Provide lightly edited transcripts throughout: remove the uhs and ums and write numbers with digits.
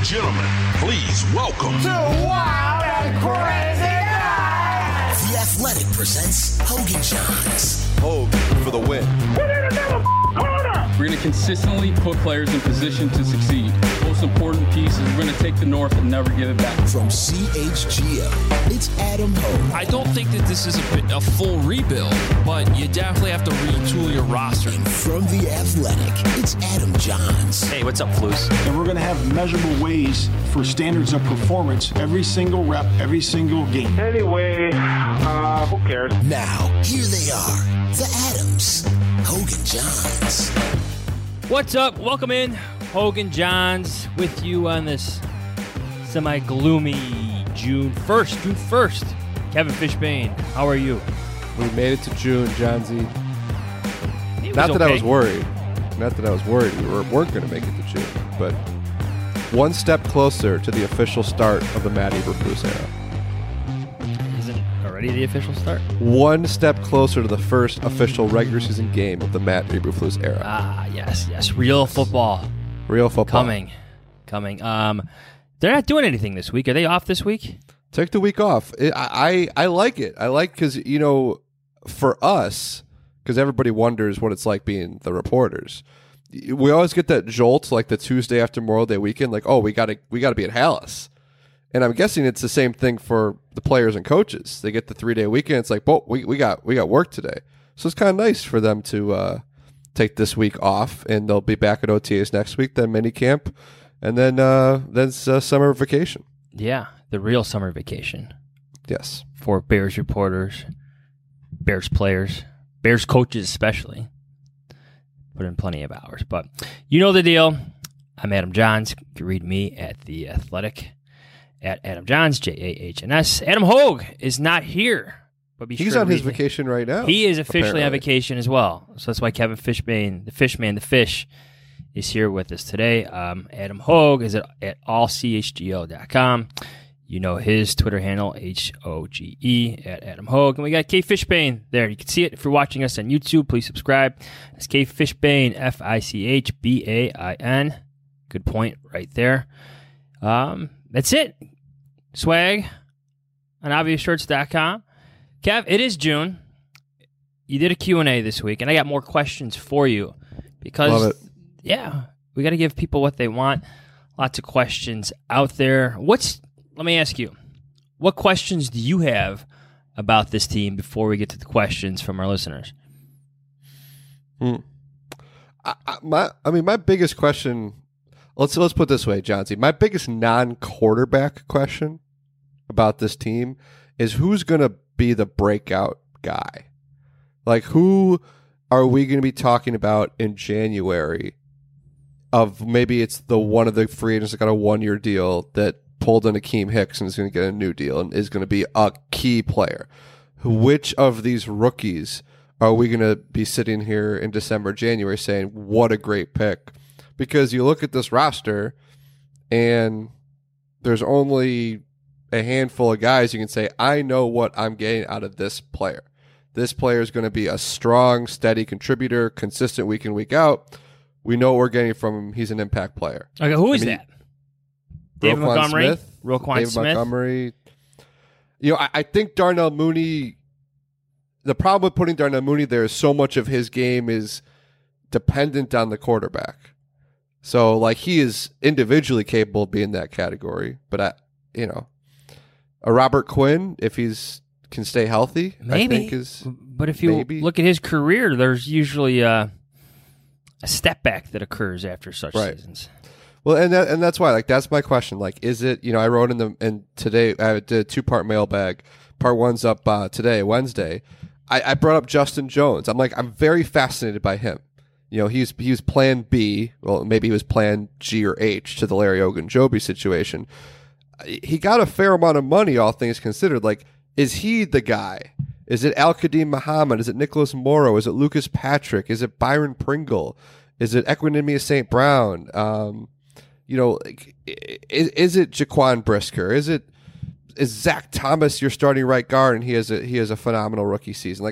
gentlemen, please welcome Two wild and crazy guys. The Athletic presents Hogan Johns. Hogue for the win. We're going to consistently put players in position to succeed. Most important piece is we're going to take the North and never give it back. From CHGO, it's Adam Hogue. I don't think that this is a full rebuild, but you definitely have to retool your roster. And from The Athletic, it's Adam Johns. Hey, what's up, Flus? And we're going to have measurable ways for standards of performance every single rep, every single game. Anyway, who cares? Now, here they are, the Adams, Hogan Johns. What's up? Welcome in. Hogan Johns with you on this semi-gloomy June 1st. Kevin Fishbane, how are you? We made it to June, Johnsy. Not that I was worried. We weren't going to make it to June, but one step closer to the official start of the Matt Eberflus era. Is it already the official start? One step closer to the first official regular season game of the Matt Eberflus era. Ah, yes. Real football. Coming. They're not doing anything this week. Are they off this week? Take the week off. I like it. I like because, for us, because everybody wonders what it's like being the reporters. We always get that jolt, like the Tuesday after Memorial Day weekend, like, oh, we got to be at Hallis. And I'm guessing it's the same thing for the players and coaches. They get the 3-day weekend. It's like, well, we got work today. So it's kind of nice for them to take this week off, and they'll be back at OTAs next week, then mini camp, and then summer vacation. Yeah, the real summer vacation. Yes. For Bears reporters, Bears players, Bears coaches especially. Put in plenty of hours. But you know the deal. I'm Adam Johns. You can read me at The Athletic, at Adam Johns, Jahns. Adam Hogue is not here. But he's on his vacation right now. He is officially on vacation as well. So that's why Kevin Fishbane, the Fishman, the Fish, is here with us today. Adam Hogue is at allchgo.com. You know his Twitter handle, HOGE, at Adam Hogue. And we got K Fishbane there. You can see it if you're watching us on YouTube. Please subscribe. It's K Fishbane, FICHBAIN. Good point right there. That's it. Swag on obviousshirts.com. Kev, it is June. You did a Q&A this week, and I got more questions for you because, love it. Yeah, we got to give people what they want. Lots of questions out there. Let me ask you, what questions do you have about this team before we get to the questions from our listeners? My biggest question, let's put it this way, Johnsy. My biggest non-quarterback question about this team is who's going to be the breakout guy. Like, who are we going to be talking about in January of maybe it's the one of the free agents that got a 1-year deal that pulled in Akeem Hicks and is going to get a new deal and is going to be a key player. Which of these rookies are we going to be sitting here in December, January saying, what a great pick? Because you look at this roster and there's only a handful of guys you can say, I know what I'm getting out of this player. This player is going to be a strong, steady contributor, consistent week in, week out. We know what we're getting from him. He's an impact player. Okay, who is that? David Montgomery? David Montgomery. I think Darnell Mooney, the problem with putting Darnell Mooney there is so much of his game is dependent on the quarterback. So, he is individually capable of being that category. But, a Robert Quinn, if he's can stay healthy, maybe. I think is. But if you look at his career, there's usually a step back that occurs after such seasons. Well, and that's why, that's my question. Is it? I wrote in today. I did a 2-part mailbag. Part 1's up today, Wednesday. I brought up Justin Jones. I'm very fascinated by him. He was Plan B. Well, maybe he was Plan G or H to the Larry Ogunjobi situation. He got a fair amount of money, all things considered. Is he the guy? Is it Al-Qadim Muhammad? Is it Nicholas Morrow? Is it Lucas Patrick? Is it Byron Pringle? Is it Equanimous St. Brown? Is it Jaquan Brisker? Is Zach Thomas your starting right guard and he has a phenomenal rookie season?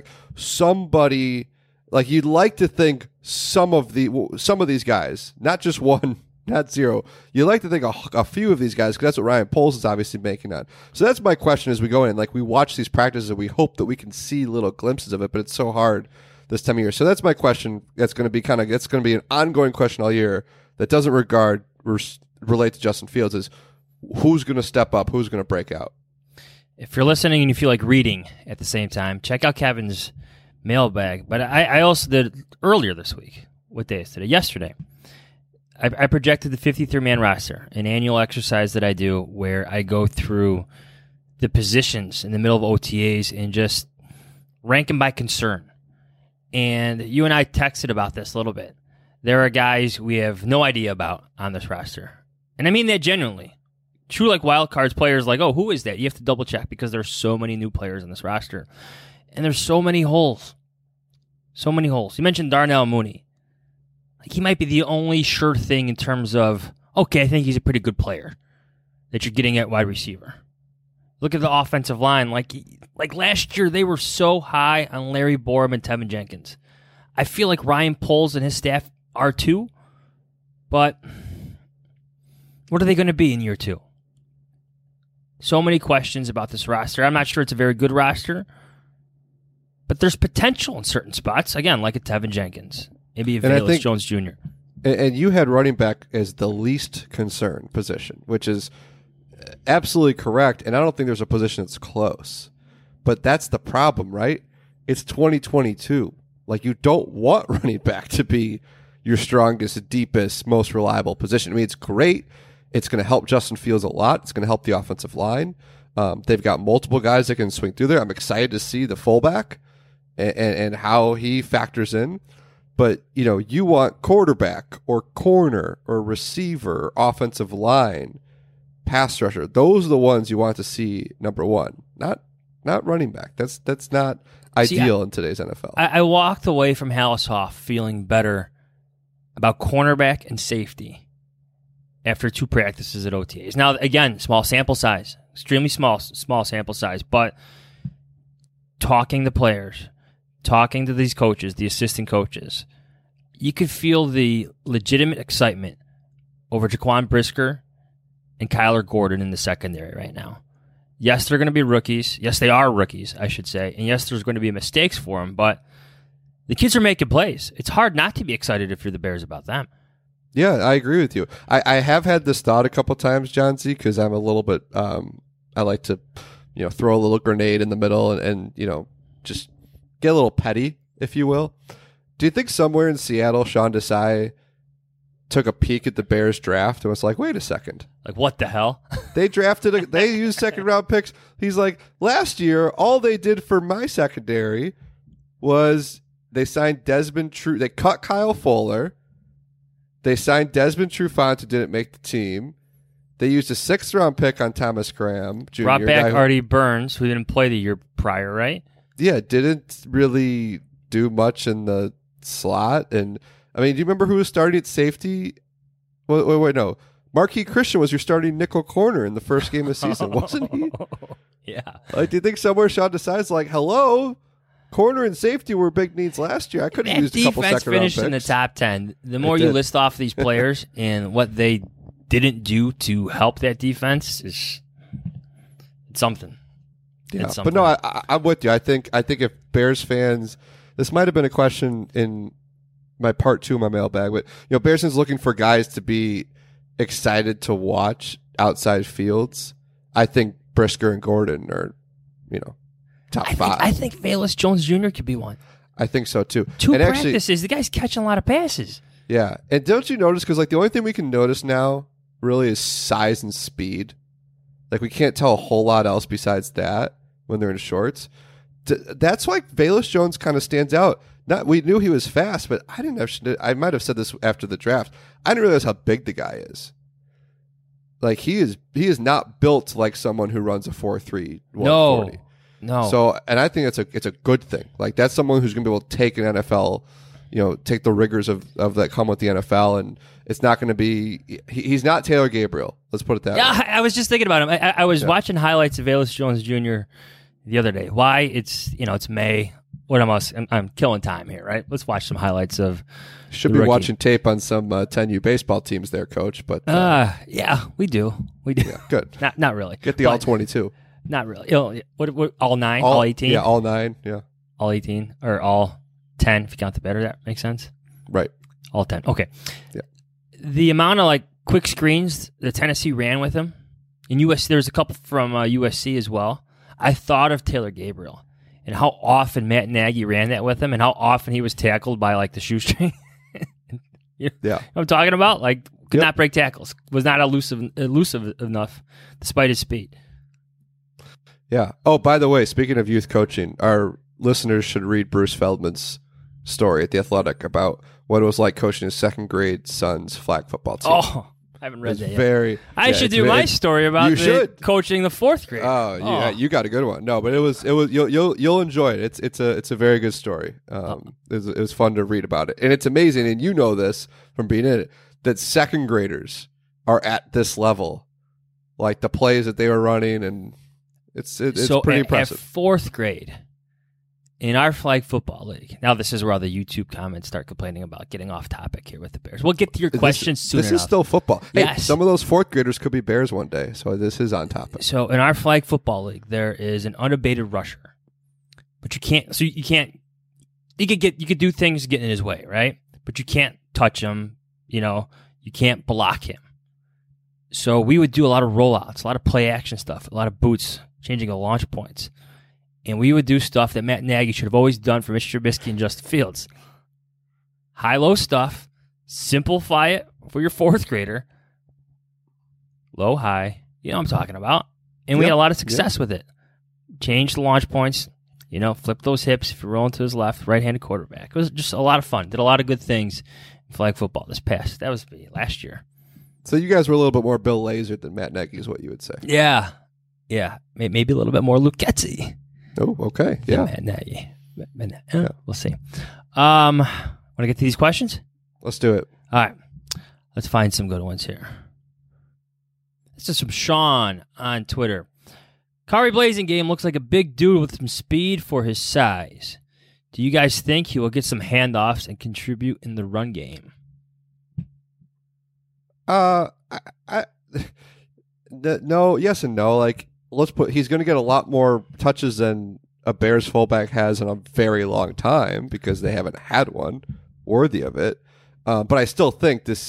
Somebody, you'd like to think some of these guys, not just one not zero. You like to think a few of these guys, because that's what Ryan Poles is obviously making on. So that's my question as we go in. Like, we watch these practices and we hope that we can see little glimpses of it, but it's so hard this time of year. So that's my question. That's going to be it's going to be an ongoing question all year that doesn't relate to Justin Fields, is who's going to step up, who's going to break out. If you're listening and you feel like reading at the same time, check out Kevin's mailbag. But I also did earlier this week. What day is today? Yesterday. I projected the 53-man roster, an annual exercise that I do where I go through the positions in the middle of OTAs and just rank them by concern. And you and I texted about this a little bit. There are guys we have no idea about on this roster. And I mean that genuinely. True, like wild cards players, like, oh, who is that? You have to double check because there's so many new players in this roster. And there's so many holes. So many holes. You mentioned Darnell Mooney. Like, he might be the only sure thing in terms of, okay, I think he's a pretty good player that you're getting at wide receiver. Look at the offensive line. Like last year, they were so high on Larry Borum and Tevin Jenkins. I feel like Ryan Poles and his staff are too, but what are they going to be in year two? So many questions about this roster. I'm not sure it's a very good roster, but there's potential in certain spots. Again, like a Tevin Jenkins, maybe a Velus Jones Jr. And you had running back as the least concern position, which is absolutely correct. And I don't think there's a position that's close. But that's the problem, right? It's 2022. Like, you don't want running back to be your strongest, deepest, most reliable position. I mean, it's great. It's going to help Justin Fields a lot. It's going to help the offensive line. They've got multiple guys that can swing through there. I'm excited to see the fullback and how he factors in. But, you want quarterback or corner or receiver, offensive line, pass rusher. Those are the ones you want to see number one, not running back. That's not ideal in today's NFL. I walked away from Halashoff feeling better about cornerback and safety after 2 practices at OTAs. Now, again, small sample size, extremely small sample size, but talking to players, talking to these coaches, the assistant coaches, you could feel the legitimate excitement over Jaquan Brisker and Kyler Gordon in the secondary right now. Yes, they're going to be rookies. Yes, they are rookies, I should say. And yes, there's going to be mistakes for them, but the kids are making plays. It's hard not to be excited if you're the Bears about them. Yeah, I agree with you. I have had this thought a couple times, John Z, because I'm a little bit, I like to, throw a little grenade in the middle and just get a little petty, if you will. Do you think somewhere in Seattle, Sean Desai took a peek at the Bears draft and was like, wait a second. Like, what the hell? They used second-round picks. He's like, last year, all they did for my secondary was they signed Desmond Trufant. They cut Kyle Fuller. They signed Desmond Trufant, who didn't make the team. They used a 6th-round pick on Thomas Graham Jr. Brought back Artie Burns, who didn't play the year prior, right? Yeah, didn't really do much in the slot. And, I mean, do you remember who was starting at safety? Wait, no. Marquis Christian was your starting nickel corner in the first game of the season, wasn't he? Yeah. Like, do you think somewhere Sean decides, like, hello? Corner and safety were big needs last year. I could have used a couple second-round picks. Defense finished in the top 10. The more you list off these players and what they didn't do to help that defense, it's something. Yeah, but no, I'm with you. I think if Bears fans, this might have been a question in my part 2 of my mailbag, but Bears fans looking for guys to be excited to watch outside fields. I think Brisker and Gordon are, top 5. I think Velus Jones Jr. could be one. I think so too. 2 practices, the guy's catching a lot of passes. Yeah, and don't you notice? Because the only thing we can notice now really is size and speed. Like, we can't tell a whole lot else besides that when they're in shorts. That's why Velus Jones kind of stands out. We knew he was fast, but I might have said this after the draft. I didn't realize how big the guy is. Like, he is not built like someone who runs a 4.3 140. No. So, and I think it's a good thing. Like, that's someone who's going to be able to take an NFL, take the rigors of that come with the NFL, and it's not going to be. He's not Taylor Gabriel. Let's put it that way. Yeah, I was just thinking about him. I was watching highlights of Velus Jones Jr. the other day. Why? It's May. what am I? I'm killing time here, right? Let's watch some highlights of. Should be watching tape on some 10U baseball teams there, Coach. But yeah, we do. Yeah, good. Not really. Get the all 22. Not really. What all 9, all 18? Yeah, all 9. Yeah, all 18 or all 10 if you count the better. That makes sense. Right. All 10. Okay. Yeah. The amount of quick screens that Tennessee ran with him in USC. There's a couple from USC as well. I thought of Taylor Gabriel and how often Matt Nagy ran that with him, and how often he was tackled by the shoestring. You know what I'm talking about? Could not break tackles. Was not elusive enough despite his speed. Yeah. Oh, by the way, speaking of youth coaching, our listeners should read Bruce Feldman's story at The Athletic about what it was like coaching his second grade son's flag football team. Oh, I haven't read that yet. I should do my story about coaching the fourth grade. Oh, yeah, you got a good one. No, but it was you'll enjoy it. It's a very good story. It was fun to read about it, and it's amazing. And you know this from being in it, that second graders are at this level, the plays that they were running, and it's pretty impressive. At fourth grade. In our flag football league, now this is where all the YouTube comments start complaining about getting off topic here with the Bears. We'll get to your questions soon enough. This is still football. Hey, yes. Some of those fourth graders could be Bears one day, so this is on topic. So in our flag football league, there is an unabated rusher, but you can't. So you can't. You could do things to get in his way, right? But you can't touch him. You can't block him. So we would do a lot of rollouts, a lot of play action stuff, a lot of boots, changing of launch points. And we would do stuff that Matt Nagy should have always done for Mr. Trubisky and Justin Fields. High-low stuff. Simplify it for your fourth grader. Low-high. You know what I'm talking about. And we had a lot of success with it. Change the launch points. Flip those hips if you're rolling to his left. Right-handed quarterback. It was just a lot of fun. Did a lot of good things in flag football that was last year. So you guys were a little bit more Bill Lazor than Matt Nagy is what you would say. Yeah. Yeah. Maybe a little bit more Luke Getsy. Oh, okay. Yeah. Matt Nagy. We'll see. Want to get to these questions? Let's do it. All right. Let's find some good ones here. This is from Sean on Twitter. Kari Blasingame looks like a big dude with some speed for his size. Do you guys think he will get some handoffs and contribute in the run game? No, yes and no. He's going to get a lot more touches than a Bears fullback has in a very long time because they haven't had one worthy of it. But I still think this.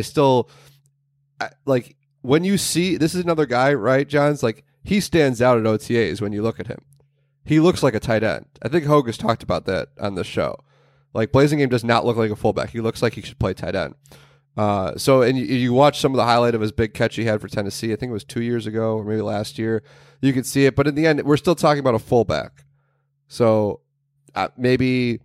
When you see this is another guy, right, Johns? He stands out at OTAs when you look at him. He looks like a tight end. I think Hogue has talked about that on the show. Blasingame does not look like a fullback. He looks like he should play tight end. And you watch some of the highlight of his big catch he had for Tennessee. I think it was 2 years ago or maybe last year. You could see it, but in the end, we're still talking about a fullback. So maybe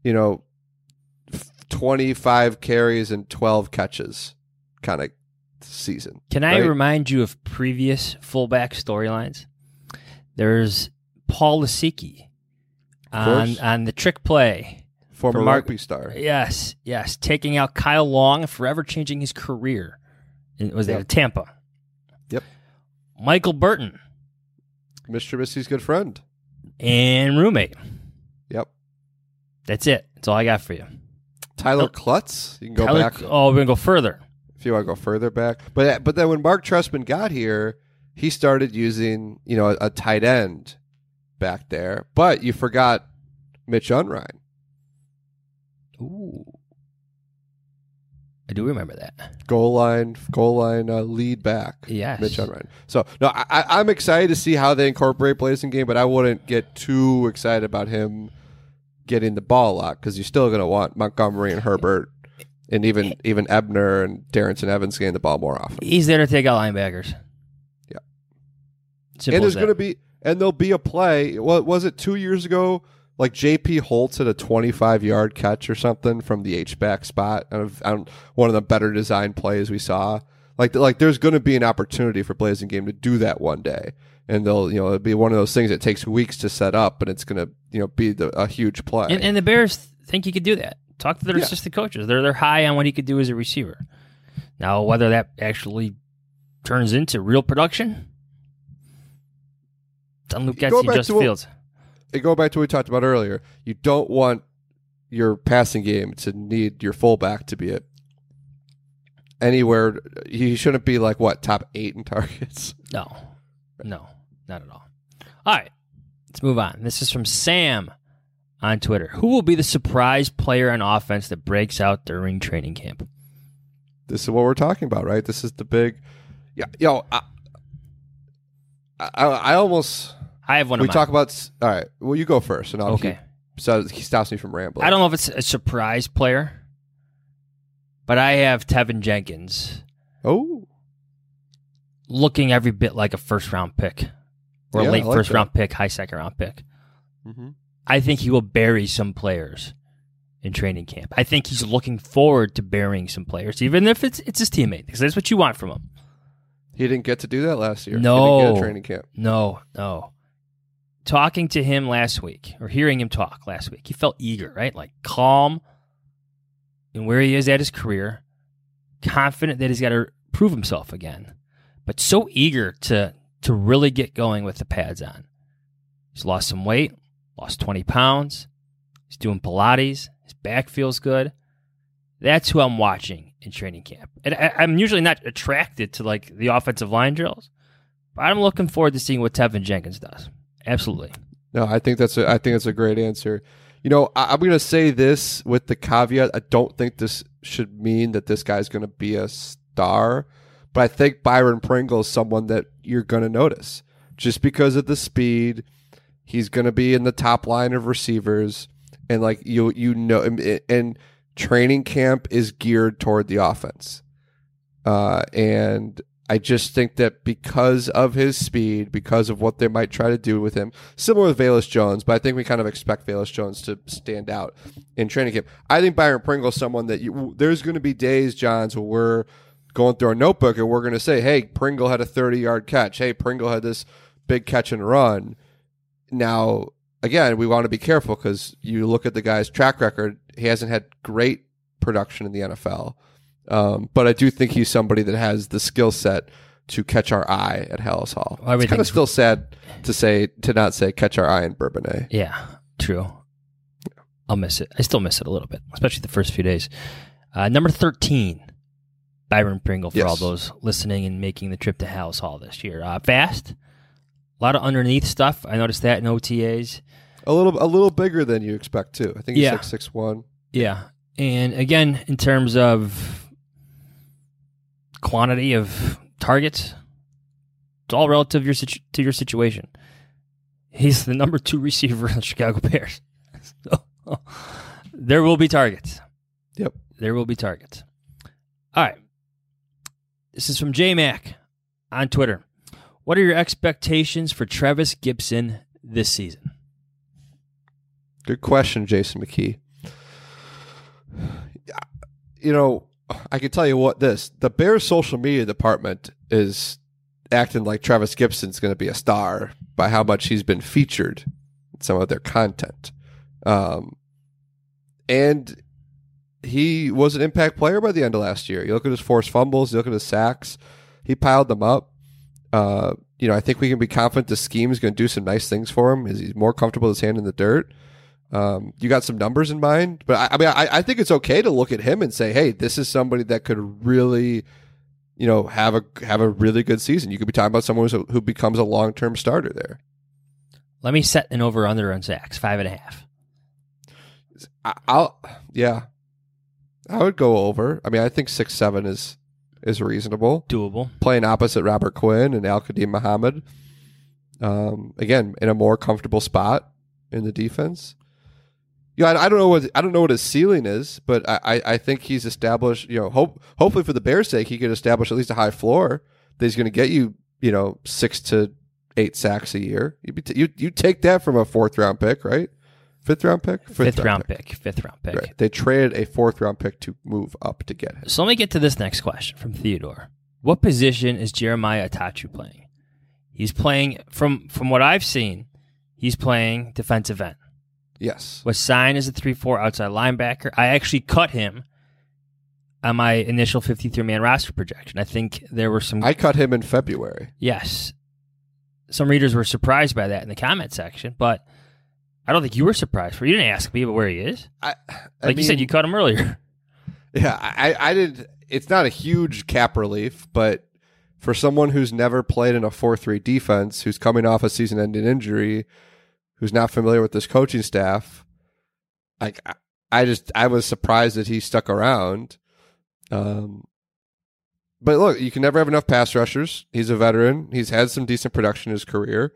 25 carries and 12 catches kind of season. Can I remind you of previous fullback storylines? There's Paul Lasicki on the trick play. Former rugby star. Yes. Taking out Kyle Long and forever changing his career. It was at Tampa. Yep. Michael Burton. Mr. Trubisky's good friend. And roommate. Yep. That's it. That's all I got for you. Tyler Klutz. You can go back. Oh, we're going to go further. If you want to go further back. But then when Mark Trestman got here, he started using, a tight end back there. But you forgot Mitch Unrein. Ooh, I do remember that goal line lead back. Yes, Mitch Unrein. So no, I'm excited to see how they incorporate Blasingame, but I wouldn't get too excited about him getting the ball a lot because you're still going to want Montgomery and Herbert and even Ebner and Darrington Evans getting the ball more often. He's there to take out linebackers. Yeah, simple and there'll be a play. What was it 2 years ago? J.P. Holtz at a 25-yard catch or something from the H-back spot on one of the better designed plays we saw. There's going to be an opportunity for Blasingame to do that one day, and it'll be one of those things that takes weeks to set up, but it's going to be a huge play. And the Bears think he could do that. Talk to their assistant coaches. They're high on what he could do as a receiver. Now, whether that actually turns into real production, it's on Luke Getsy and Justin Fields. go back to what we talked about earlier. You don't want your passing game to need your fullback to be anywhere. He shouldn't be like top 8 in targets. No, not at all. All right, let's move on. This is from Sam on Twitter. Who will be the surprise player on offense that breaks out during training camp? This is what we're talking about, right? This is the big. Yeah, I almost. I have one. We talk about. All right. Well, you go first, and I'll keep. So he stops me from rambling. I don't know if it's a surprise player, but I have Tevin Jenkins. Oh. Looking every bit like a first-round pick, or a late first-round pick, high second-round pick. Mm-hmm. I think he will bury some players in training camp. I think he's looking forward to burying some players, even if it's his teammate, because that's what you want from him. He didn't get to do that last year. No. He didn't get a training camp. No. Talking to him last week, or hearing him talk last week, he felt eager, right? Like calm in where he is at his career, confident that he's got to prove himself again, but so eager to really get going with the pads on. He's lost some weight, lost 20 pounds. He's doing Pilates. His back feels good. That's who I'm watching in training camp. And I'm usually not attracted to like the offensive line drills, but I'm looking forward to seeing what Tevin Jenkins does. Absolutely. No, I think that's a great answer. You know, I'm going to say this with the caveat. I don't think this should mean that this guy's going to be a star, but I think Byron Pringle is someone that you're going to notice just because of the speed. He's going to be in the top line of receivers, and like you know, and training camp is geared toward the offense, and I just think that because of his speed, because of what they might try to do with him, similar with Velus Jones, but I think we kind of expect Velus Jones to stand out in training camp. I think Byron Pringle is someone that there's going to be days, Johns, where we're going through our notebook and we're going to say, hey, Pringle had a 30-yard catch. Hey, Pringle had this big catch and run. Now, again, we want to be careful because you look at the guy's track record. He hasn't had great production in the NFL. But I do think he's somebody that has the skill set to catch our eye at Hallis Hall. It's kind of still sad to not say catch our eye in Bourbonnais. Yeah, true. Yeah. I'll miss it. I still miss it a little bit, especially the first few days. Number 13, Byron Pringle for all those listening and making the trip to Hallis Hall this year. Fast, a lot of underneath stuff. I noticed that in OTAs. A little bigger than you expect too. I think he's like 6'1". Yeah, and again, in terms of quantity of targets, it's all relative to your situation. He's the number 2 receiver in the Chicago Bears. So, there will be targets. Yep. There will be targets. All right. This is from J-Mac on Twitter. What are your expectations for Trevis Gibson this season? Good question, Jason McKee. You know, I can tell you the Bears social media department is acting like Trevis Gibson's going to be a star by how much he's been featured in some of their content. And he was an impact player by the end of last year. You look at his forced fumbles, you look at his sacks, he piled them up. I think we can be confident the scheme is going to do some nice things for him as he's more comfortable with his hand in the dirt. You got some numbers in mind, but I think it's okay to look at him and say, hey, this is somebody that could really, have a really good season. You could be talking about someone who becomes a long-term starter there. Let me set an over-under on sacks, 5.5. I would go over. I mean, I think 6-7 is reasonable. Doable. Playing opposite Robert Quinn and Al-Qadim Muhammad. Again, in a more comfortable spot in the defense. Yeah, I don't know what his ceiling is, but I think he's established. Hopefully for the Bears' sake, he could establish at least a high floor that he's going to get you. 6 to 8 sacks a year. You take that from a 4th-round pick, right? 5th-round pick. Fifth round pick. Right. They traded a 4th-round pick to move up to get him. So let me get to this next question from Theodore. What position is Jeremiah Atachu playing? He's playing from what I've seen. He's playing defensive end. Yes. Was signed as a 3-4 outside linebacker. I actually cut him on my initial 53-man roster projection. I think there were some... I cut him in February. Yes. Some readers were surprised by that in the comment section, but I don't think you were surprised. You didn't ask me, but where he is. You said, you cut him earlier. Yeah, I did. It's not a huge cap relief, but for someone who's never played in a 4-3 defense, who's coming off a season-ending injury, who's not familiar with this coaching staff, I was surprised that he stuck around. But look, you can never have enough pass rushers. He's a veteran. He's had some decent production in his career.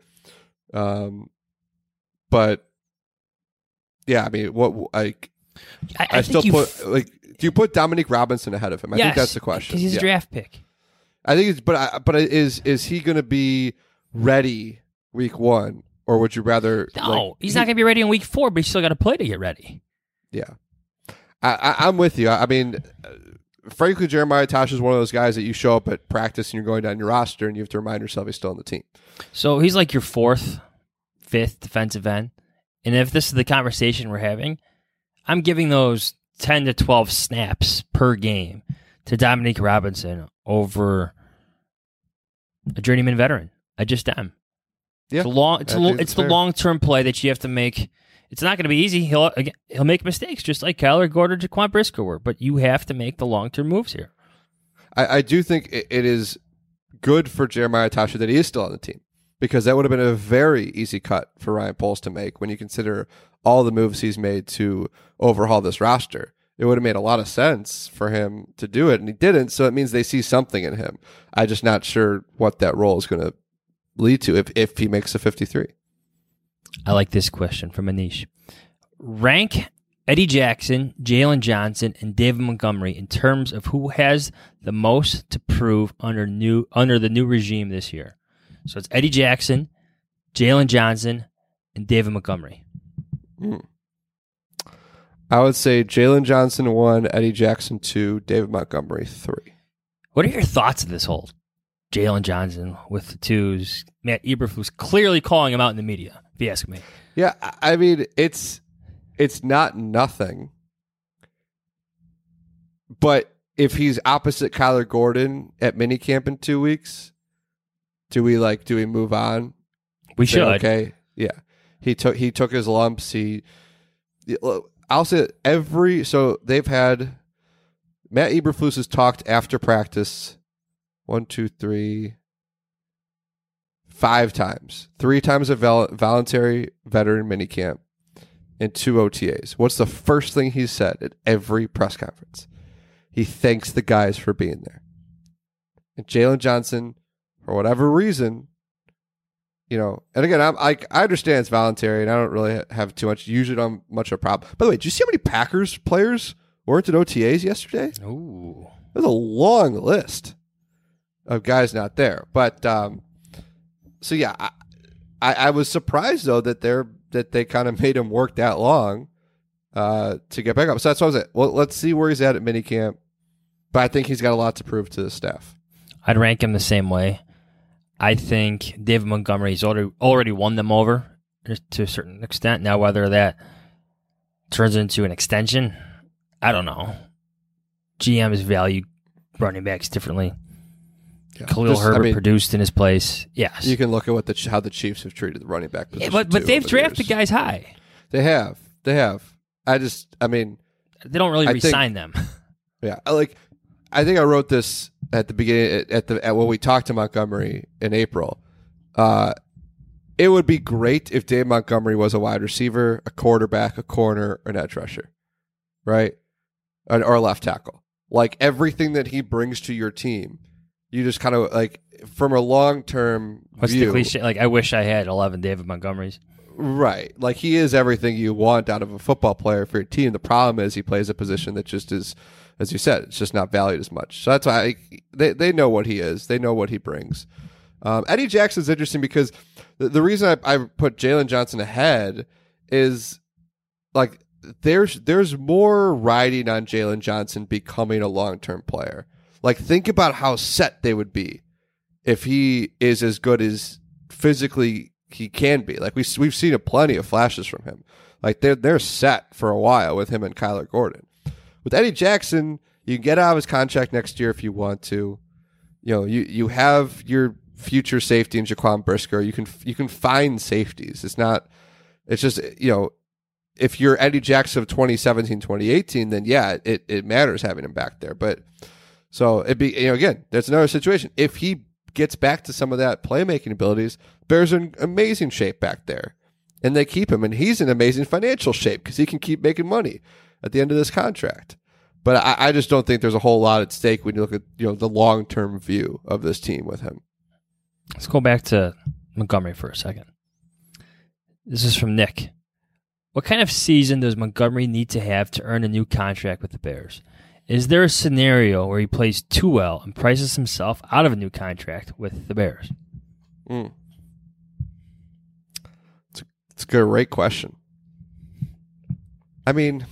But yeah, I mean, I still put do you put Dominique Robinson ahead of him? I think that's the question. Because he's a draft pick. I think is he going to be ready week 1, or would you rather? No, he's not going to be ready in week 4, but he's still got to play to get ready. Yeah, I'm with you. I mean, frankly, Jeremiah Tosh is one of those guys that you show up at practice and you're going down your roster and you have to remind yourself he's still on the team. So he's like your 4th, 5th defensive end. And if this is the conversation we're having, I'm giving those 10 to 12 snaps per game to Dominique Robinson over a journeyman veteran. I just am. Yeah, it's the long-term play that you have to make. It's not going to be easy. He'll make mistakes, just like Kyler Gordon, Jaquan Brisker were. But you have to make the long-term moves here. I do think it is good for Jeremiah Tasha that he is still on the team, because that would have been a very easy cut for Ryan Poles to make when you consider all the moves he's made to overhaul this roster. It would have made a lot of sense for him to do it, and he didn't, so it means they see something in him. I'm just not sure what that role is going to lead to if he makes a 53. I like this question from Anish. Rank Eddie Jackson, Jalen Johnson, and David Montgomery in terms of who has the most to prove under the new regime this year. So it's Eddie Jackson, Jalen Johnson, and David Montgomery. I would say Jalen Johnson 1, Eddie Jackson 2, David Montgomery 3. What are your thoughts of this whole Jalen Johnson with the 2s? Matt Eberflus clearly calling him out in the media, if you ask me. Yeah, I mean, it's not nothing. But if he's opposite Kyler Gordon at minicamp in 2 weeks, do we move on? We should. Okay. Yeah. He took his lumps. I'll say so they've had Matt Eberflus has talked after practice 5 times. 3 times a voluntary veteran minicamp and 2 OTAs. What's the first thing he said at every press conference? He thanks the guys for being there. And Jalen Johnson, for whatever reason, and again, I understand it's voluntary, and I don't really have too much. Usually, don't have much of a problem. By the way, did you see how many Packers players weren't at OTAs yesterday? Ooh, there's a long list of guys not there. But so yeah, I was surprised though that they kind of made him work that long to get back up. So that's what I was at. Well, let's see where he's at minicamp. But I think he's got a lot to prove to the staff. I'd rank him the same way. I think David Montgomery's already won them over to a certain extent. Now, whether that turns into an extension, I don't know. GMs value running backs differently. Yeah. Khalil Herbert produced in his place. Yes. You can look at how the Chiefs have treated the running back position. Yeah, but they've drafted guys high. They have. They don't really re-sign them. Yeah. I think I wrote this at the beginning at when we talked to Montgomery in April. It would be great if Dave Montgomery was a wide receiver, a quarterback, a corner, an edge rusher, right? Or a left tackle. Like everything that he brings to your team, you just kind of from a long-term What's view. The cliche? I wish I had 11 David Montgomerys. Right. He is everything you want out of a football player for your team. The problem is he plays a position that just is, as you said, it's just not valued as much. So that's why they know what he is. They know what he brings. Eddie Jackson's interesting because the reason I put Jalen Johnson ahead is there's more riding on Jalen Johnson becoming a long-term player. Think about how set they would be if he is as good as physically he can be. We've seen plenty of flashes from him. They're set for a while with him and Kyler Gordon. With Eddie Jackson, you can get out of his contract next year if you want to. You have your future safety in Jaquan Brisker. You can find safeties. It's not It's just, if you're Eddie Jackson of 2017, 2018, then yeah, it matters having him back there. But so it'd be, again, there's another situation. If he gets back to some of that playmaking abilities, Bears are in amazing shape back there. And they keep him, and he's in amazing financial shape because he can keep making money at the end of this contract. But I just don't think there's a whole lot at stake when you look at the long-term view of this team with him. Let's go back to Montgomery for a second. This is from Nick. What kind of season does Montgomery need to have to earn a new contract with the Bears? Is there a scenario where he plays too well and prices himself out of a new contract with the Bears? It's a great question. I mean,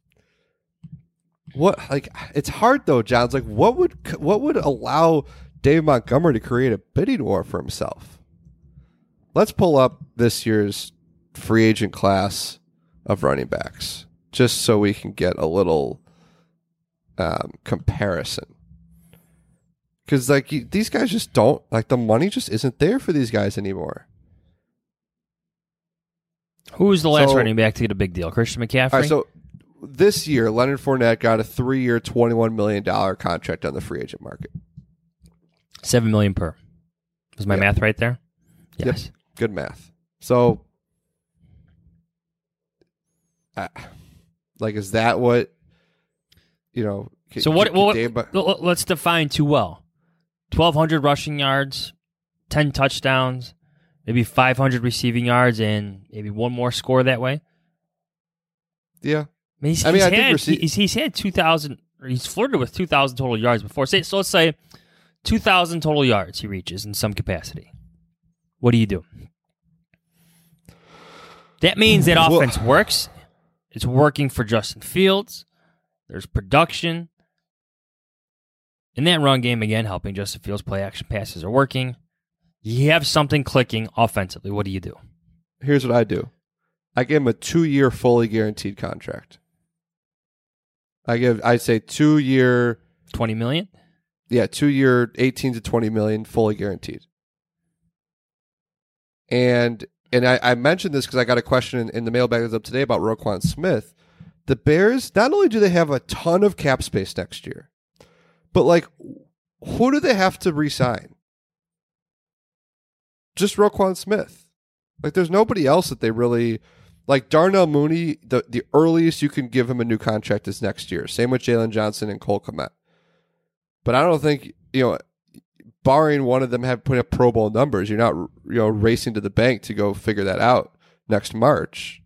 it's hard though, John. It's like, what would allow Dave Montgomery to create a bidding war for himself? Let's pull up this year's free agent class of running backs, just so we can get a little comparison. Because these guys just don't, the money just isn't there for these guys anymore. Who was the last running back to get a big deal? Christian McCaffrey? All right, so this year, Leonard Fournette got a 3-year, $21 million contract on the free agent market. $7 million per. Was my math right there? Yes. Yep. Good math. So, is that what, So let's define too well. 1,200 rushing yards, 10 touchdowns, maybe 500 receiving yards, and maybe one more score that way. Yeah, he's had 2,000. He's flirted with 2,000 total yards before. So let's say 2,000 total yards he reaches in some capacity. What do you do? That means that offense works. It's working for Justin Fields. There's production. In that run game, again, helping Justin Fields play action passes are working. You have something clicking offensively. What do you do? Here's what I do. I give him a 2-year fully guaranteed contract. I'd say 2-year $20 million? Yeah, 2-year 18 to 20 million fully guaranteed. And I mentioned this because I got a question in the mailbag that's up today about Roquan Smith. The Bears, not only do they have a ton of cap space next year, but who do they have to re-sign? Just Roquan Smith. There's nobody else that they really Darnell Mooney. The earliest you can give him a new contract is next year. Same with Jalen Johnson and Cole Kmet. But I don't think barring one of them putting up Pro Bowl numbers, you're not racing to the bank to go figure that out next March.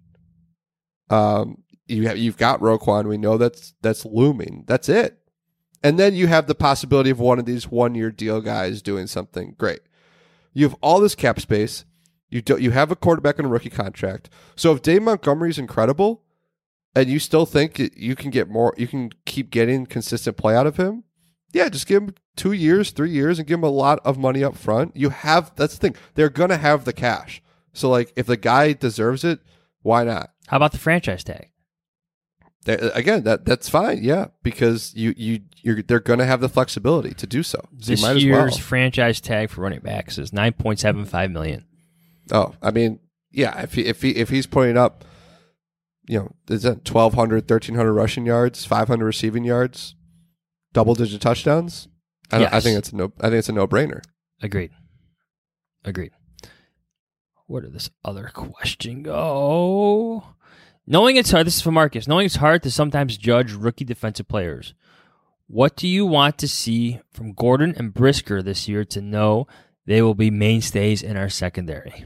You've got Roquan. We know that's looming. That's it. And then you have the possibility of one of these 1-year deal guys doing something great. You have all this cap space. You have a quarterback on a rookie contract. So if Dave Montgomery's incredible, and you still think you can get more, you can keep getting consistent play out of him. Yeah, just give him 2 years, 3 years, and give him a lot of money up front. That's the thing. They're gonna have the cash. So if the guy deserves it, why not? How about the franchise tag? Again, that's fine. Yeah, because they're gonna have the flexibility to do so. This year's franchise tag for running backs is $9.75 million. Oh, I mean, yeah. If he's putting up, is that 1,200, 1,300 rushing yards, 500 receiving yards, double-digit touchdowns? I think it's a no-brainer. Agreed. Where did this other question go? Knowing it's hard. This is from Marcus. Knowing it's hard to sometimes judge rookie defensive players. What do you want to see from Gordon and Brisker this year to know they will be mainstays in our secondary?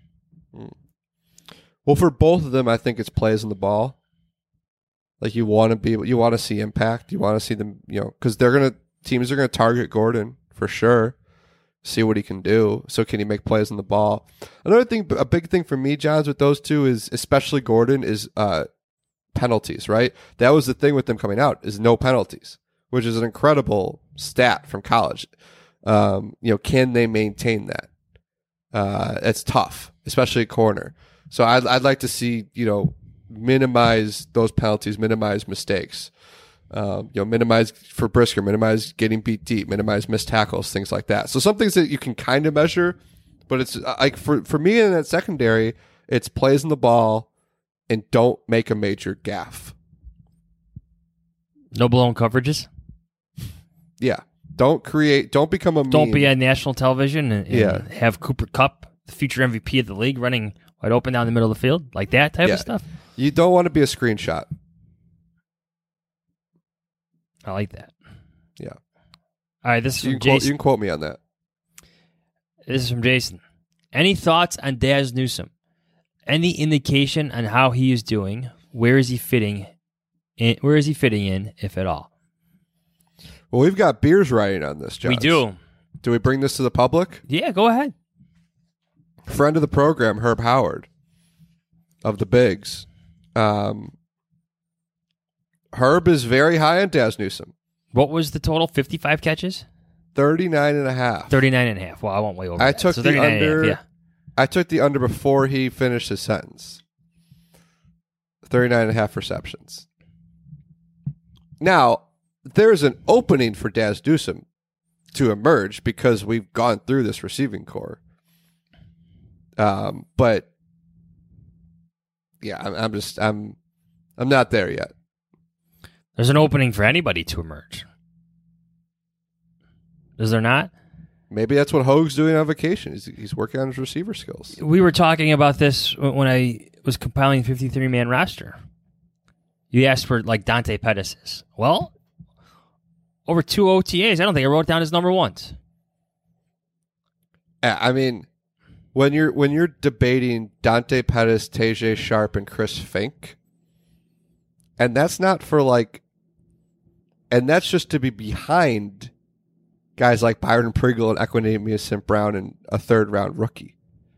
Well, for both of them, I think it's plays in the ball. You want to see impact. You want to see them, because teams are gonna target Gordon for sure. See what he can do. So can he make plays on the ball? Another thing, a big thing for me, Johns, with those two is, especially Gordon, is penalties. Right? That was the thing with them coming out, is no penalties, which is an incredible stat from college. Can they maintain that? It's tough, especially at corner. So I'd like to see, minimize those penalties, minimize mistakes, minimize for Brisker, minimize getting beat deep, minimize missed tackles, things like that. So some things that you can kind of measure, but it's for me in that secondary, It's plays in the ball and don't make a major gaffe. No blown coverages. Yeah. Don't become a meme. Don't be on national television and have Cooper Kupp, the future MVP of the league, running wide open down the middle of the field. Like that type of stuff. You don't want to be a screenshot. I like that. Yeah. All right, this is from Jason. You can quote me on that. This is from Jason. Any thoughts on Daz Newsome? Any indication on how he is doing? Where is he fitting in, if at all? Well, we've got beers writing on this, John. We do. Do we bring this to the public? Yeah, go ahead. Friend of the program, Herb Howard of the Bigs. Herb is very high on Daz Newsome. What was the total? 55 catches? 39.5. 39.5. Well, I won't way over I that. took So the under. yeah. I took the under before he finished his sentence. 39.5 receptions. Now, there's an opening for Daz Newsome to emerge because we've gone through this receiving core. But yeah, I'm not there yet. There's an opening for anybody to emerge. Is there not? Maybe that's what Hogue's doing on vacation. He's working on his receiver skills. We were talking about this when I was compiling 53-man roster. You asked for like Dante Pettis. Well, over 2 OTAs, I don't think I wrote down his number once. I mean, when you're debating Dante Pettis, Tajae Sharp, and Chris Fink, and that's not for and that's just to be behind guys like Byron Pringle and Equanimeous St. Brown and a third-round rookie.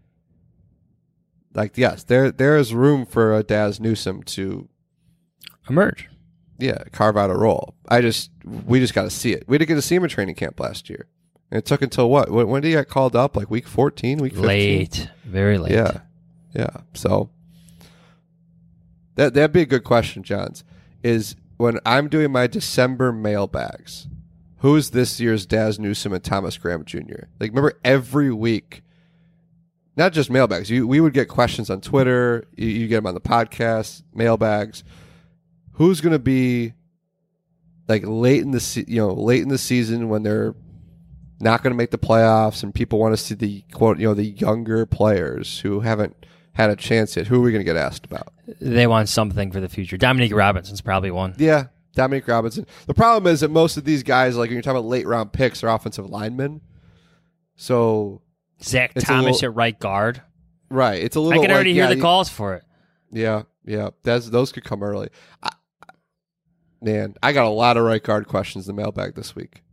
Yes, there is room for a Daz Newsome to emerge. Yeah, carve out a role. We just got to see it. We didn't get to see him in training camp last year. And it took until what? When did he get called up? Like week 14, week 15? Late. Very late. Yeah. So that'd be a good question, Johns, is when I'm doing my December mailbags, who is this year's Daz Newsome and Thomas Graham Jr.? Remember every week, not just mailbags. We would get questions on Twitter. You get them on the podcast, mailbags. Who's going to be late in the season when they're not going to make the playoffs and people want to see the quote, the younger players who haven't had a chance yet? Who are we going to get asked about? They want something for the future. Dominique Robinson's probably one. Yeah, Dominique Robinson. The problem is that most of these guys, when you're talking about late round picks, are offensive linemen. So Zach Thomas at right guard. Right. It's a little. I can already hear the calls for it. Yeah. Those could come early. Man, I got a lot of right guard questions in the mailbag this week.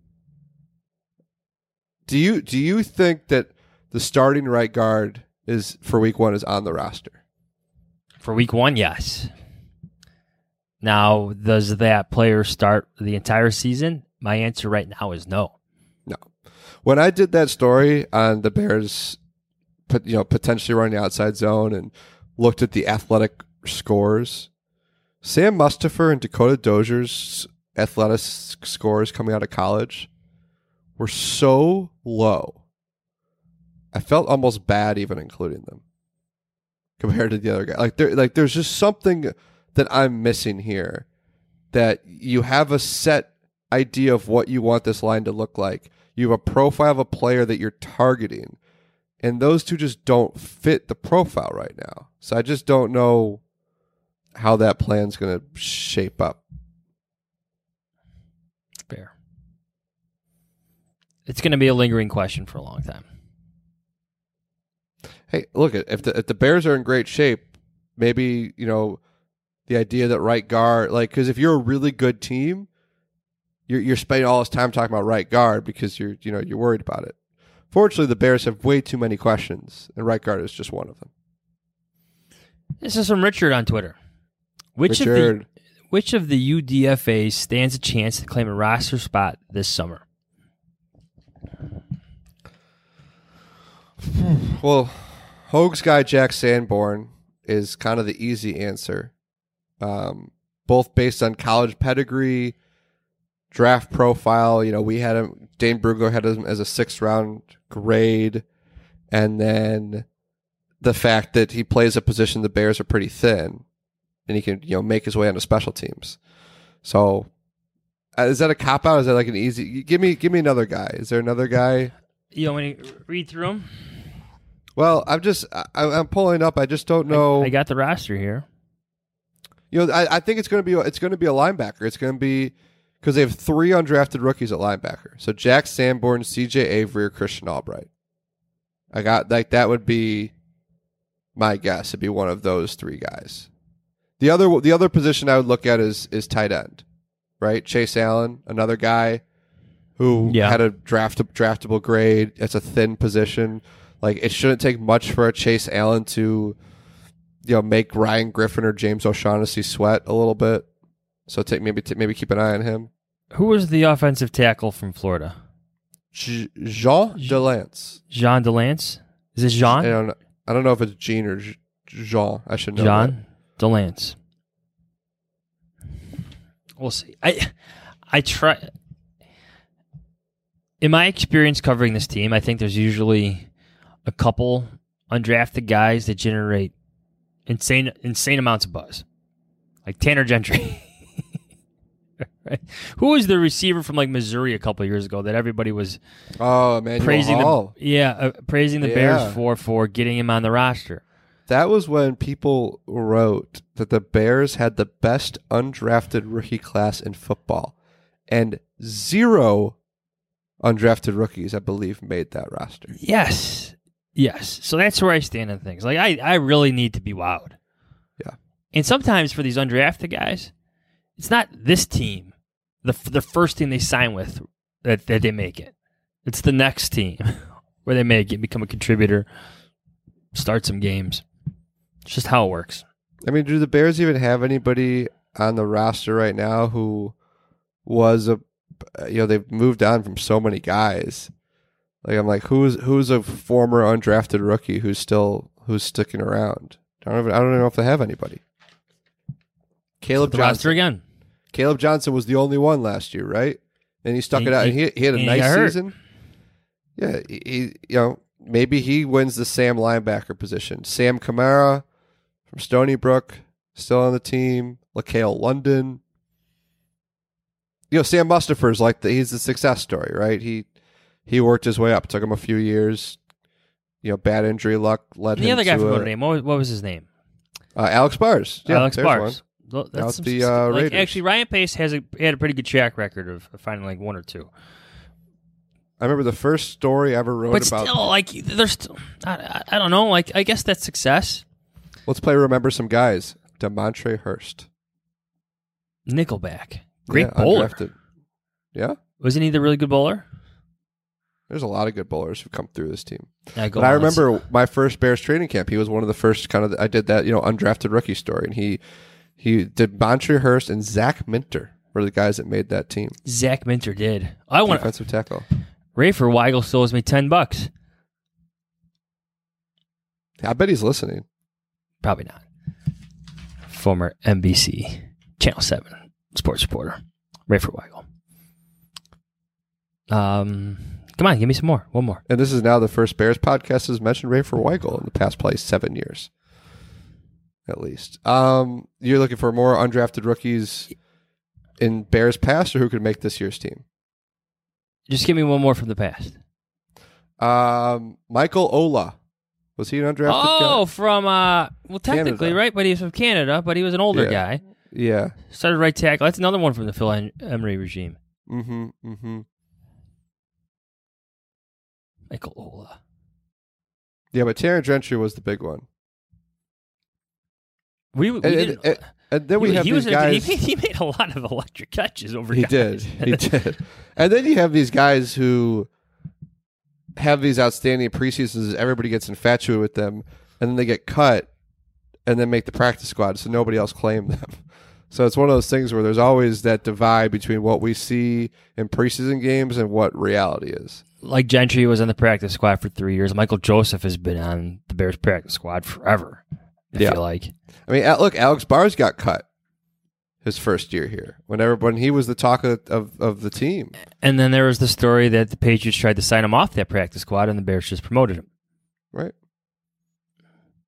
Do you think that the starting right guard for week 1 is on the roster? For week 1, yes. Now, does that player start the entire season? My answer right now is no. No. When I did that story on the Bears, potentially running the outside zone and looked at the athletic scores, Sam Mustipher and Dakota Dozier's athletic scores coming out of college were so low. I felt almost bad even including them compared to the other guy. There's just something that I'm missing here, that you have a set idea of what you want this line to look like. You have a profile of a player that you're targeting, and those two just don't fit the profile right now. So I just don't know how that plan's going to shape up. Fair. It's going to be a lingering question for a long time. Hey, look, if the Bears are in great shape, maybe, the idea that right guard, because if you're a really good team, you're spending all this time talking about right guard because you're worried about it. Fortunately, the Bears have way too many questions, and right guard is just one of them. This is from Richard on Twitter. Which of the UDFAs stands a chance to claim a roster spot this summer? Well, Hogue's guy Jack Sanborn is kind of the easy answer, both based on college pedigree, draft profile. We had him. Dane Brugler had him as a 6th round grade, and then the fact that he plays a position the Bears are pretty thin, and he can make his way onto special teams. So, is that a cop out? Is that like an easy? Give me another guy. Is there another guy? You want me to read through them? Well, I'm pulling up. I just don't know. I got the roster here. I think it's going to be a linebacker. It's going to be because they have 3 undrafted rookies at linebacker. So Jack Sanborn, C.J. Avery, or Christian Albright. I got that would be my guess. It'd be one of those 3 guys. The other position I would look at is tight end, right? Chase Allen, another guy who had a draftable grade. It's a thin position. Like, it shouldn't take much for a Chase Allen to, make Ryan Griffin or James O'Shaughnessy sweat a little bit. So maybe keep an eye on him. Who was the offensive tackle from Florida? Jean Delance. Jean Delance? Is it Jean? I don't know if it's Jean or Jean. I should know. Jean Delance. We'll see. I try. In my experience covering this team, I think there's usually a couple undrafted guys that generate insane amounts of buzz, like Tanner Gentry. Right? Who was the receiver from Missouri a couple of years ago that everybody was praising the Bears for getting him on the roster? That was when people wrote that the Bears had the best undrafted rookie class in football, and 0 undrafted rookies, I believe, made that roster. Yes. So that's where I stand on things. I really need to be wowed. Yeah. And sometimes for these undrafted guys, it's not this team, the first team they sign with, that they make it. It's the next team where they make it, become a contributor, start some games. It's just how it works. I mean, do the Bears even have anybody on the roster right now who was they've moved on from so many guys. I'm like, who's a former undrafted rookie who's sticking around? I don't even know if they have anybody. Caleb Johnson again. Caleb Johnson was the only one last year, right? And he stuck it out, and he had a nice season. Yeah, he maybe he wins the Sam linebacker position. Sam Kamara from Stony Brook still on the team. LaCale London. Sam Mustipher's he's the success story, right? He worked his way up. It took him a few years. Bad injury luck led him to... The other guy from Notre Dame, what was his name? Alex Bars. Yeah, Alex Bars. That's the Raiders. Actually, Ryan Pace had a pretty good track record of finding 1 or 2. I remember the first story I ever wrote about... But still, there's still... I don't know. I guess that's success. Let's remember some guys. DeMontre Hurst. Nickelback. Great bowler. Undrafted. Yeah? Wasn't he the really good bowler? There's a lot of good bowlers who come through this team. But I remember my first Bears training camp. He was one of the first I did that, undrafted rookie story. And he did DeMontre Hurst and Zach Minter were the guys that made that team. Zach Minter did. Defensive tackle. Rafer Weigel still owes me $10. I bet he's listening. Probably not. Former NBC Channel 7 sports reporter, Rafer Weigel. Come on, give me some more. One more. And this is now the first Bears podcast has mentioned Rafer Weigel in the past probably 7 years. At least. You're looking for more undrafted rookies in Bears past, or who could make this year's team? Just give me one more from the past. Michael Ola. Was he an undrafted guy? Oh, from, technically, Canada. right? But he was from Canada, but he was an older guy. Yeah. Started right tackle. That's another one from the Phil Emery regime. Mm-hmm. Michael Ola. Yeah, but Tanner Gentry was the big one. We didn't... And then we have these guys... He made a lot of electric catches over He guys. did. And then you have these guys who have these outstanding preseasons. Everybody gets infatuated with them, and then they get cut and then make the practice squad, so nobody else claimed them. So it's one of those things where there's always that divide between what we see in preseason games and what reality is. Like Gentry was on the practice squad for 3 years. Michael Joseph has been on the Bears practice squad forever, I feel like. I mean, look, Alex Bars got cut his first year here when he was the talk of the team. And then there was the story that the Patriots tried to sign him off that practice squad, and the Bears just promoted him. Right.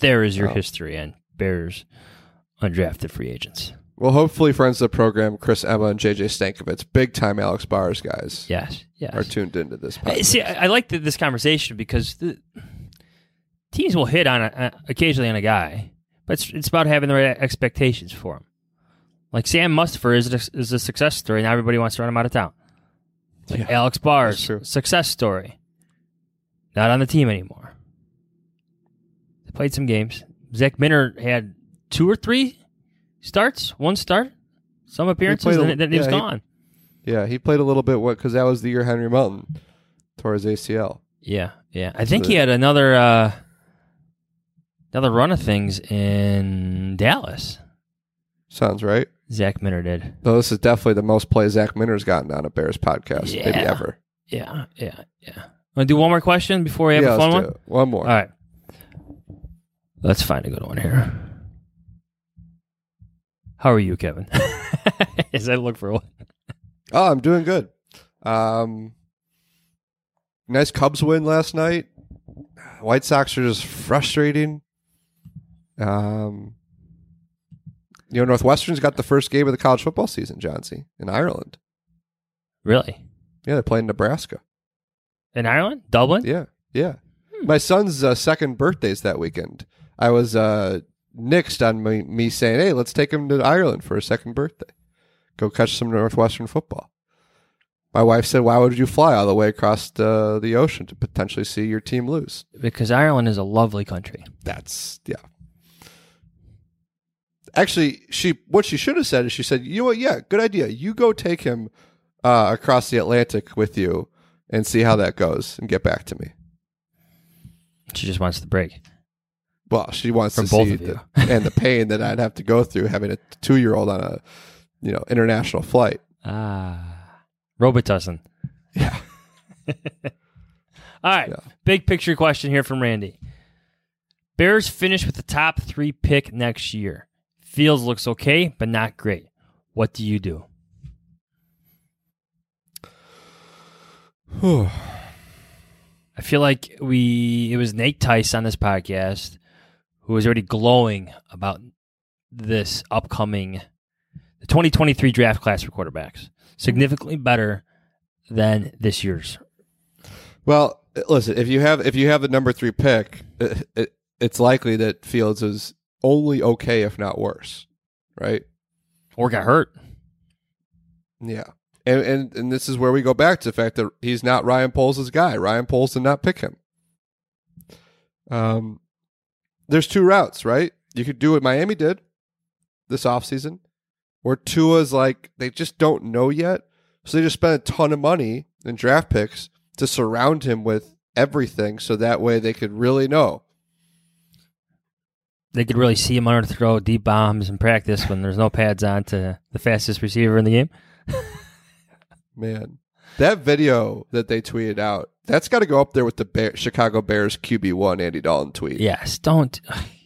there is your history and Bears undrafted free agents. Well, hopefully friends of the program, Chris Emma and JJ Stankovitz, big-time Alex Bars guys, yes, are tuned into this podcast. See, I like this conversation because the teams will hit on occasionally on a guy, but it's about having the right expectations for him. Like Sam Mustipher is a success story, and everybody wants to run him out of town. Like Alex Bars, success story. Not on the team anymore. They played some games. Zach Minter had 2 or 3 starts, 1 start, some appearances, and then he was gone. He played a little bit because that was the year Henry Melton tore his ACL. Yeah. I think he had another run of things in Dallas. Sounds right. Zach Minter did. Though this is definitely the most play Zach Minter's gotten on a Bears podcast, maybe ever. Yeah. Want to do one more question before we have a fun one? One more. All right. Let's find a good one here. How are you, Kevin? As I look for one. Oh, I'm doing good. Nice Cubs win last night. White Sox are just frustrating. Northwestern's got the first game of the college football season, Johnsy, in Ireland. Really? Yeah, they're playing Nebraska. In Ireland? Dublin? Yeah. My son's second birthday's that weekend. I was nixed on me saying, hey, let's take him to Ireland for his second birthday. Go catch some Northwestern football. My wife said, why would you fly all the way across the ocean to potentially see your team lose? Because Ireland is a lovely country. Actually, what she should have said is she said, you know what, yeah, good idea. You go take him across the Atlantic with you and see how that goes and get back to me. She just wants the break. Well, she wants from to both see of you. And the pain that I'd have to go through having a 2-year-old on a international flight. Robitussin. Yeah. All right. Yeah. Big picture question here from Randy. Bears finish with the top 3 pick next year. Fields looks okay, but not great. What do you do? I feel like it was Nate Tice on this podcast who was already glowing about this upcoming the 2023 draft class for quarterbacks. Significantly better than this year's. Well, listen, if you have the number 3 pick, it's likely that Fields is only okay, if not worse, right? Or got hurt. Yeah. And this is where we go back to the fact that he's not Ryan Poles' guy. Ryan Poles did not pick him. There's 2 routes, right? You could do what Miami did this offseason, where Tua's like, they just don't know yet. So they just spent a ton of money in draft picks to surround him with everything so that way they could really know. They could really see him under the throw deep bombs in practice when there's no pads on to the fastest receiver in the game. Man, that video that they tweeted out, that's got to go up there with the Chicago Bears QB1 Andy Dalton tweet. Yes, don't.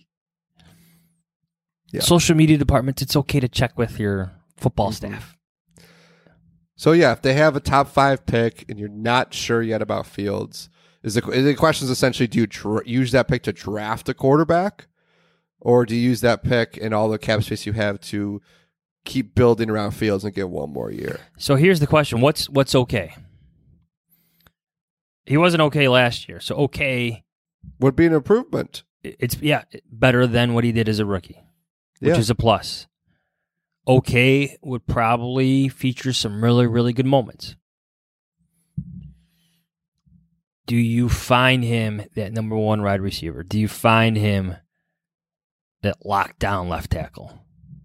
Yeah. Social media departments, it's okay to check with your football staff. So, yeah, if they have a top 5 pick and you're not sure yet about Fields, the question is essentially, do you use that pick to draft a quarterback? Or do you use that pick and all the cap space you have to keep building around Fields and get one more year? So here's the question. What's okay? He wasn't okay last year. So okay would be an improvement. It's better than what he did as a rookie, which is a plus. Okay would probably feature some really, really good moments. Do you find him that number 1 wide receiver? Do you find him that lockdown left tackle?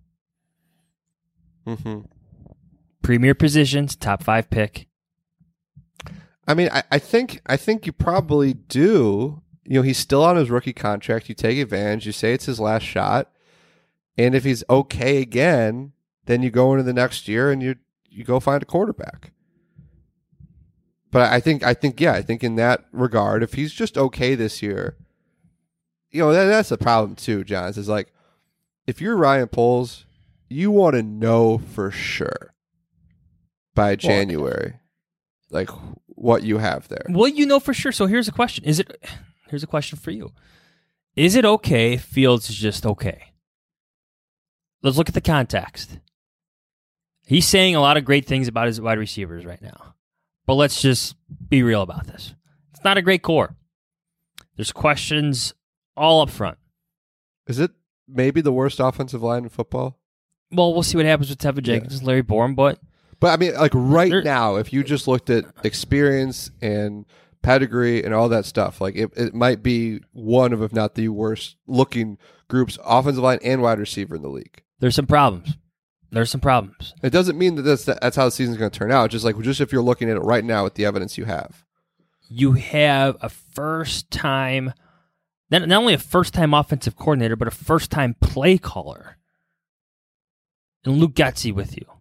Mm-hmm. Premier positions, top 5 pick. I mean, I think you probably do. He's still on his rookie contract. You take advantage. You say it's his last shot. And if he's okay again, then you go into the next year and you go find a quarterback. But I think in that regard, if he's just okay this year, that's a problem too, John. It's like, if you're Ryan Poles, you want to know for sure by January, like what you have there. Well, you know for sure. So here's a question. Here's a question for you. Is it okay if Fields is just okay? Let's look at the context. He's saying a lot of great things about his wide receivers right now. But let's just be real about this. It's not a great core. There's questions all up front. Is it maybe the worst offensive line in football? Well, we'll see what happens with Tevin Jenkins and Larry Borum, but I mean, like now, if you just looked at experience and pedigree and all that stuff, like it might be one of, if not the worst looking groups, offensive line and wide receiver in the league. There's some problems. It doesn't mean that that's how the season's going to turn out. Just if you're looking at it right now with the evidence you have. You have a first-time, not only a first-time offensive coordinator, but a first-time play caller. And Luke Getsy with you.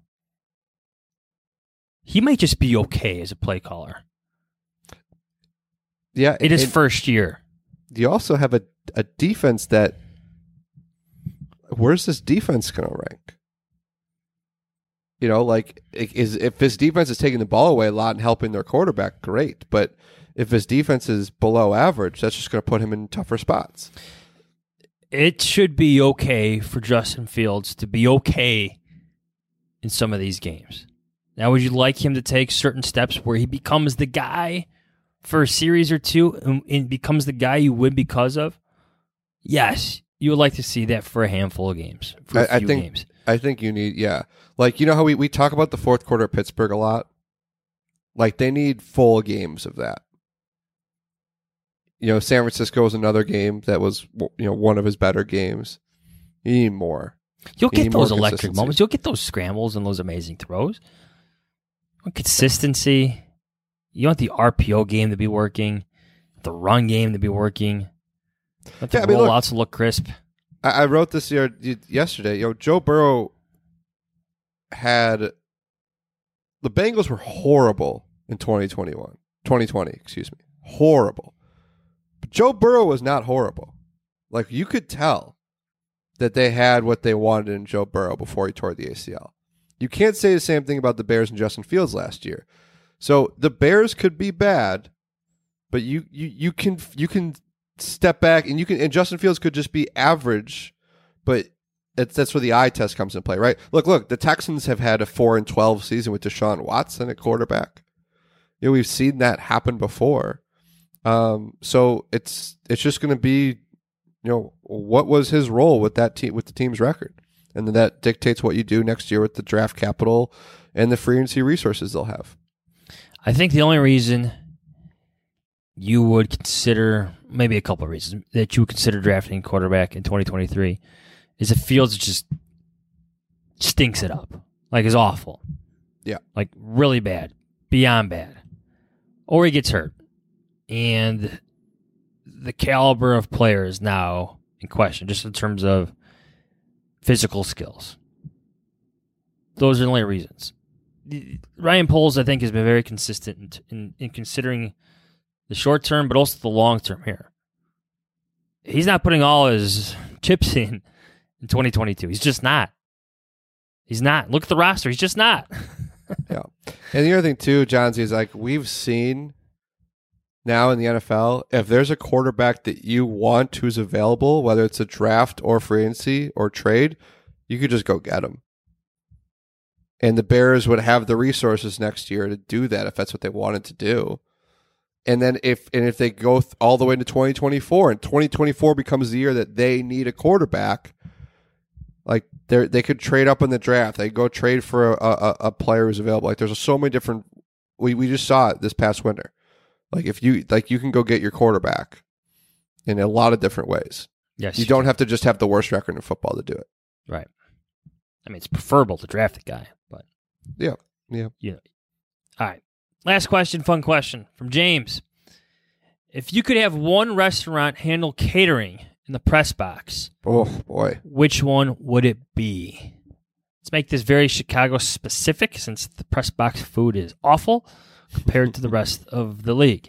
He might just be okay as a play caller. Yeah. In his first year. You also have a defense that, where's this defense going to rank? You know, like, if his defense is taking the ball away a lot and helping their quarterback, great. But if his defense is below average, that's just going to put him in tougher spots. It should be okay for Justin Fields to be okay in some of these games. Now, would you like him to take certain steps where he becomes the guy for a series or two and becomes the guy you win because of? Yes, you would like to see that for a handful of games, for a few games. I think you need, like, you know how we talk about the fourth quarter of Pittsburgh a lot? Like, they need full games of that. You know, San Francisco was another game that was, you know, one of his better games. You need more. You'll get those electric moments. You'll get those scrambles and those amazing throws. Consistency. You want the RPO game to be working, the run game to be working. Let the rollouts look crisp. I wrote this yesterday. You know, Joe Burrow had, the Bengals were horrible in 2020, excuse me. Horrible. But Joe Burrow was not horrible. Like, you could tell that they had what they wanted in Joe Burrow before he tore the ACL. You can't say the same thing about the Bears and Justin Fields last year. So the Bears could be bad, but you can step back and Justin Fields could just be average, but that's where the eye test comes into play, right? Look, the Texans have had a 4-12 season with Deshaun Watson at quarterback. You know, we've seen that happen before. So it's just going to be, you know, what was his role with that team, with the team's record, and then that dictates what you do next year with the draft capital and the free agency resources they'll have. I think the only reason you would consider, maybe a couple of reasons, that you would consider drafting a quarterback in 2023 is if Fields just stinks it up. Like, is awful. Yeah. Like, really bad. Beyond bad. Or he gets hurt. And the caliber of player is now in question, just in terms of physical skills. Those are the only reasons. Ryan Poles, I think, has been very consistent in considering the short term, but also the long term here. He's not putting all his chips in 2022. He's just not. He's not. Look at the roster. He's just not. Yeah. And the other thing, too, John, is like we've seen now in the NFL, if there's a quarterback that you want who's available, whether it's a draft or free agency or trade, you could just go get him. And the Bears would have the resources next year to do that if that's what they wanted to do. And then if they go all the way into 2024 and 2024 becomes the year that they need a quarterback, like they could trade up in the draft. They go trade for a player who's available. Like there's so many different. We just saw it this past winter. Like if you can go get your quarterback in a lot of different ways. Yes, you don't have to just have the worst record in football to do it. Right. I mean, it's preferable to draft a guy, but yeah. You know. All right. Last question, fun question from James. If you could have one restaurant handle catering in the press box, oh boy, which one would it be? Let's make this very Chicago specific, since the press box food is awful compared to the rest of the league.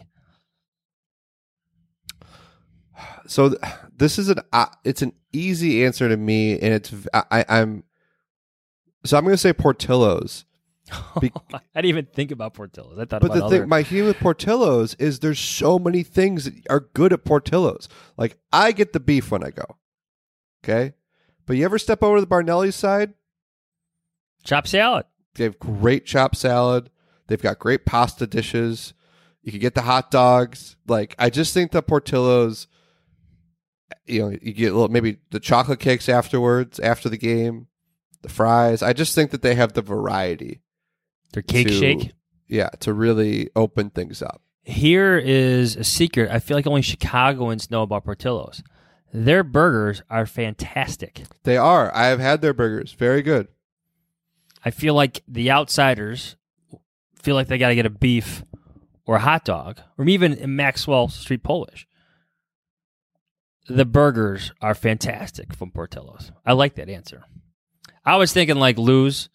So this is it's an easy answer to me, and I'm going to say Portillo's, I didn't even think about Portillo's. I thought But about the other. thing, my thing with Portillo's is there's so many things that are good at Portillo's. Like, I get the beef when I go. Okay? But you ever step over to the Barnelli's side? Chopped salad. They have great chopped salad. They've got great pasta dishes. You can get the hot dogs. Like, I just think that Portillo's, you get a little, maybe the chocolate cakes afterwards, after the game, the fries. I just think that they have the variety. Their cake shake. Yeah, to really open things up. Here is a secret. I feel like only Chicagoans know about Portillo's. Their burgers are fantastic. They are. I have had their burgers. Very good. I feel like the outsiders feel like they got to get a beef or a hot dog, or even a Maxwell Street Polish. The burgers are fantastic from Portillo's. I like that answer. I was thinking like Lou's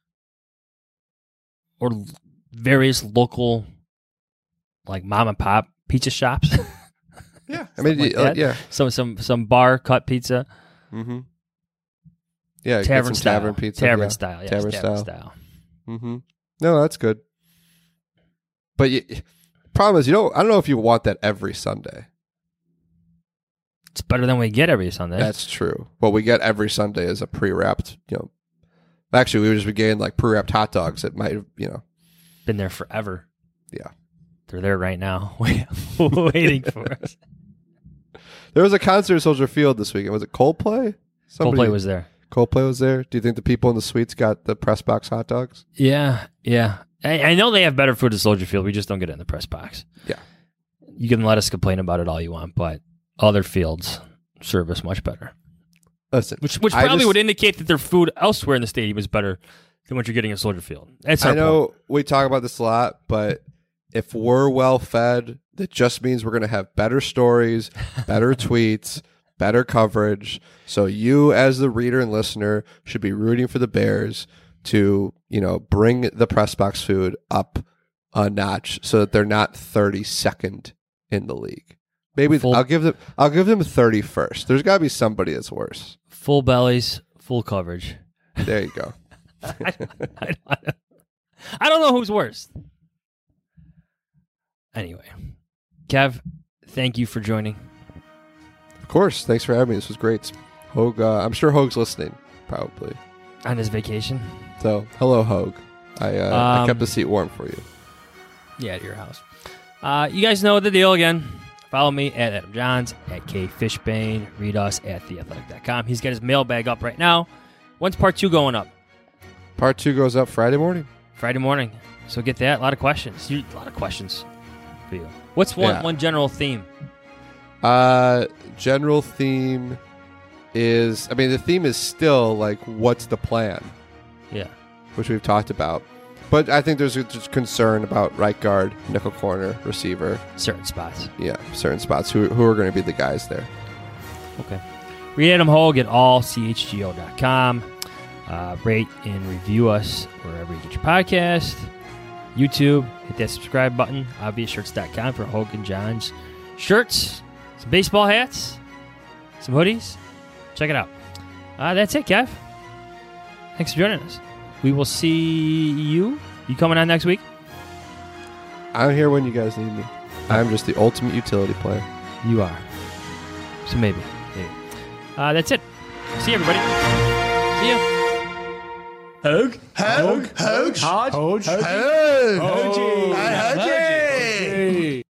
or various local, like mom and pop pizza shops. Yeah, I mean, like yeah. Some bar cut pizza. Mm-hmm. Yeah, Tavern style. Tavern pizza. Tavern style. Yes, Tavern tavern style. style. Mm-hmm. No, that's good. But problem is, I don't know if you want that every Sunday. It's better than we get every Sunday. That's true. What we get every Sunday is a pre-wrapped, actually, we would just be getting like pre-wrapped hot dogs that might have, been there forever. Yeah. They're there right now, waiting for us. There was a concert at Soldier Field this weekend. Was it Coldplay? Coldplay was there. Coldplay was there. Do you think the people in the suites got the press box hot dogs? Yeah. I know they have better food at Soldier Field. We just don't get it in the press box. Yeah. You can let us complain about it all you want, but other fields serve us much better. Listen, which probably would indicate that their food elsewhere in the stadium is better than what you're getting at Soldier Field. That's I know we talk about this a lot, but if we're well fed, that just means we're going to have better stories, better tweets, better coverage. So you, as the reader and listener, should be rooting for the Bears to, bring the press box food up a notch so that they're not 32nd in the league. Maybe I'll give them 31st. There's got to be somebody that's worse. Full bellies, full coverage. There you go. I don't know who's worse. Anyway, Kev, thank you for joining. Of course. Thanks for having me. This was great. Hogue, I'm sure Hogue's listening, probably. On his vacation. So, hello, Hogue. I kept the seat warm for you. Yeah, at your house. You guys know the deal again. Follow me at Adam Johns, at K Fishbane. Read us at theathletic.com. He's got his mailbag up right now. When's part 2 going up? Part 2 goes up Friday morning. Friday morning. So get that. A lot of questions. A lot of questions for you. What's one general theme? General theme is, the theme is still like, what's the plan? Yeah. Which we've talked about. But I think there's just concern about right guard, nickel corner, receiver. Certain spots. Yeah, certain spots. Who are going to be the guys there? Okay. Read Adam Hogue at allchgo.com. Rate and review us wherever you get your podcast. YouTube, hit that subscribe button. Obviousshirts.com for Hogue and John's shirts, some baseball hats, some hoodies. Check it out. That's it, Kev. Thanks for joining us. We will see you. You coming on next week? I'm here when you guys need me. I'm just the ultimate utility player. You are. So maybe. That's it. See you, everybody. See you. Hogue.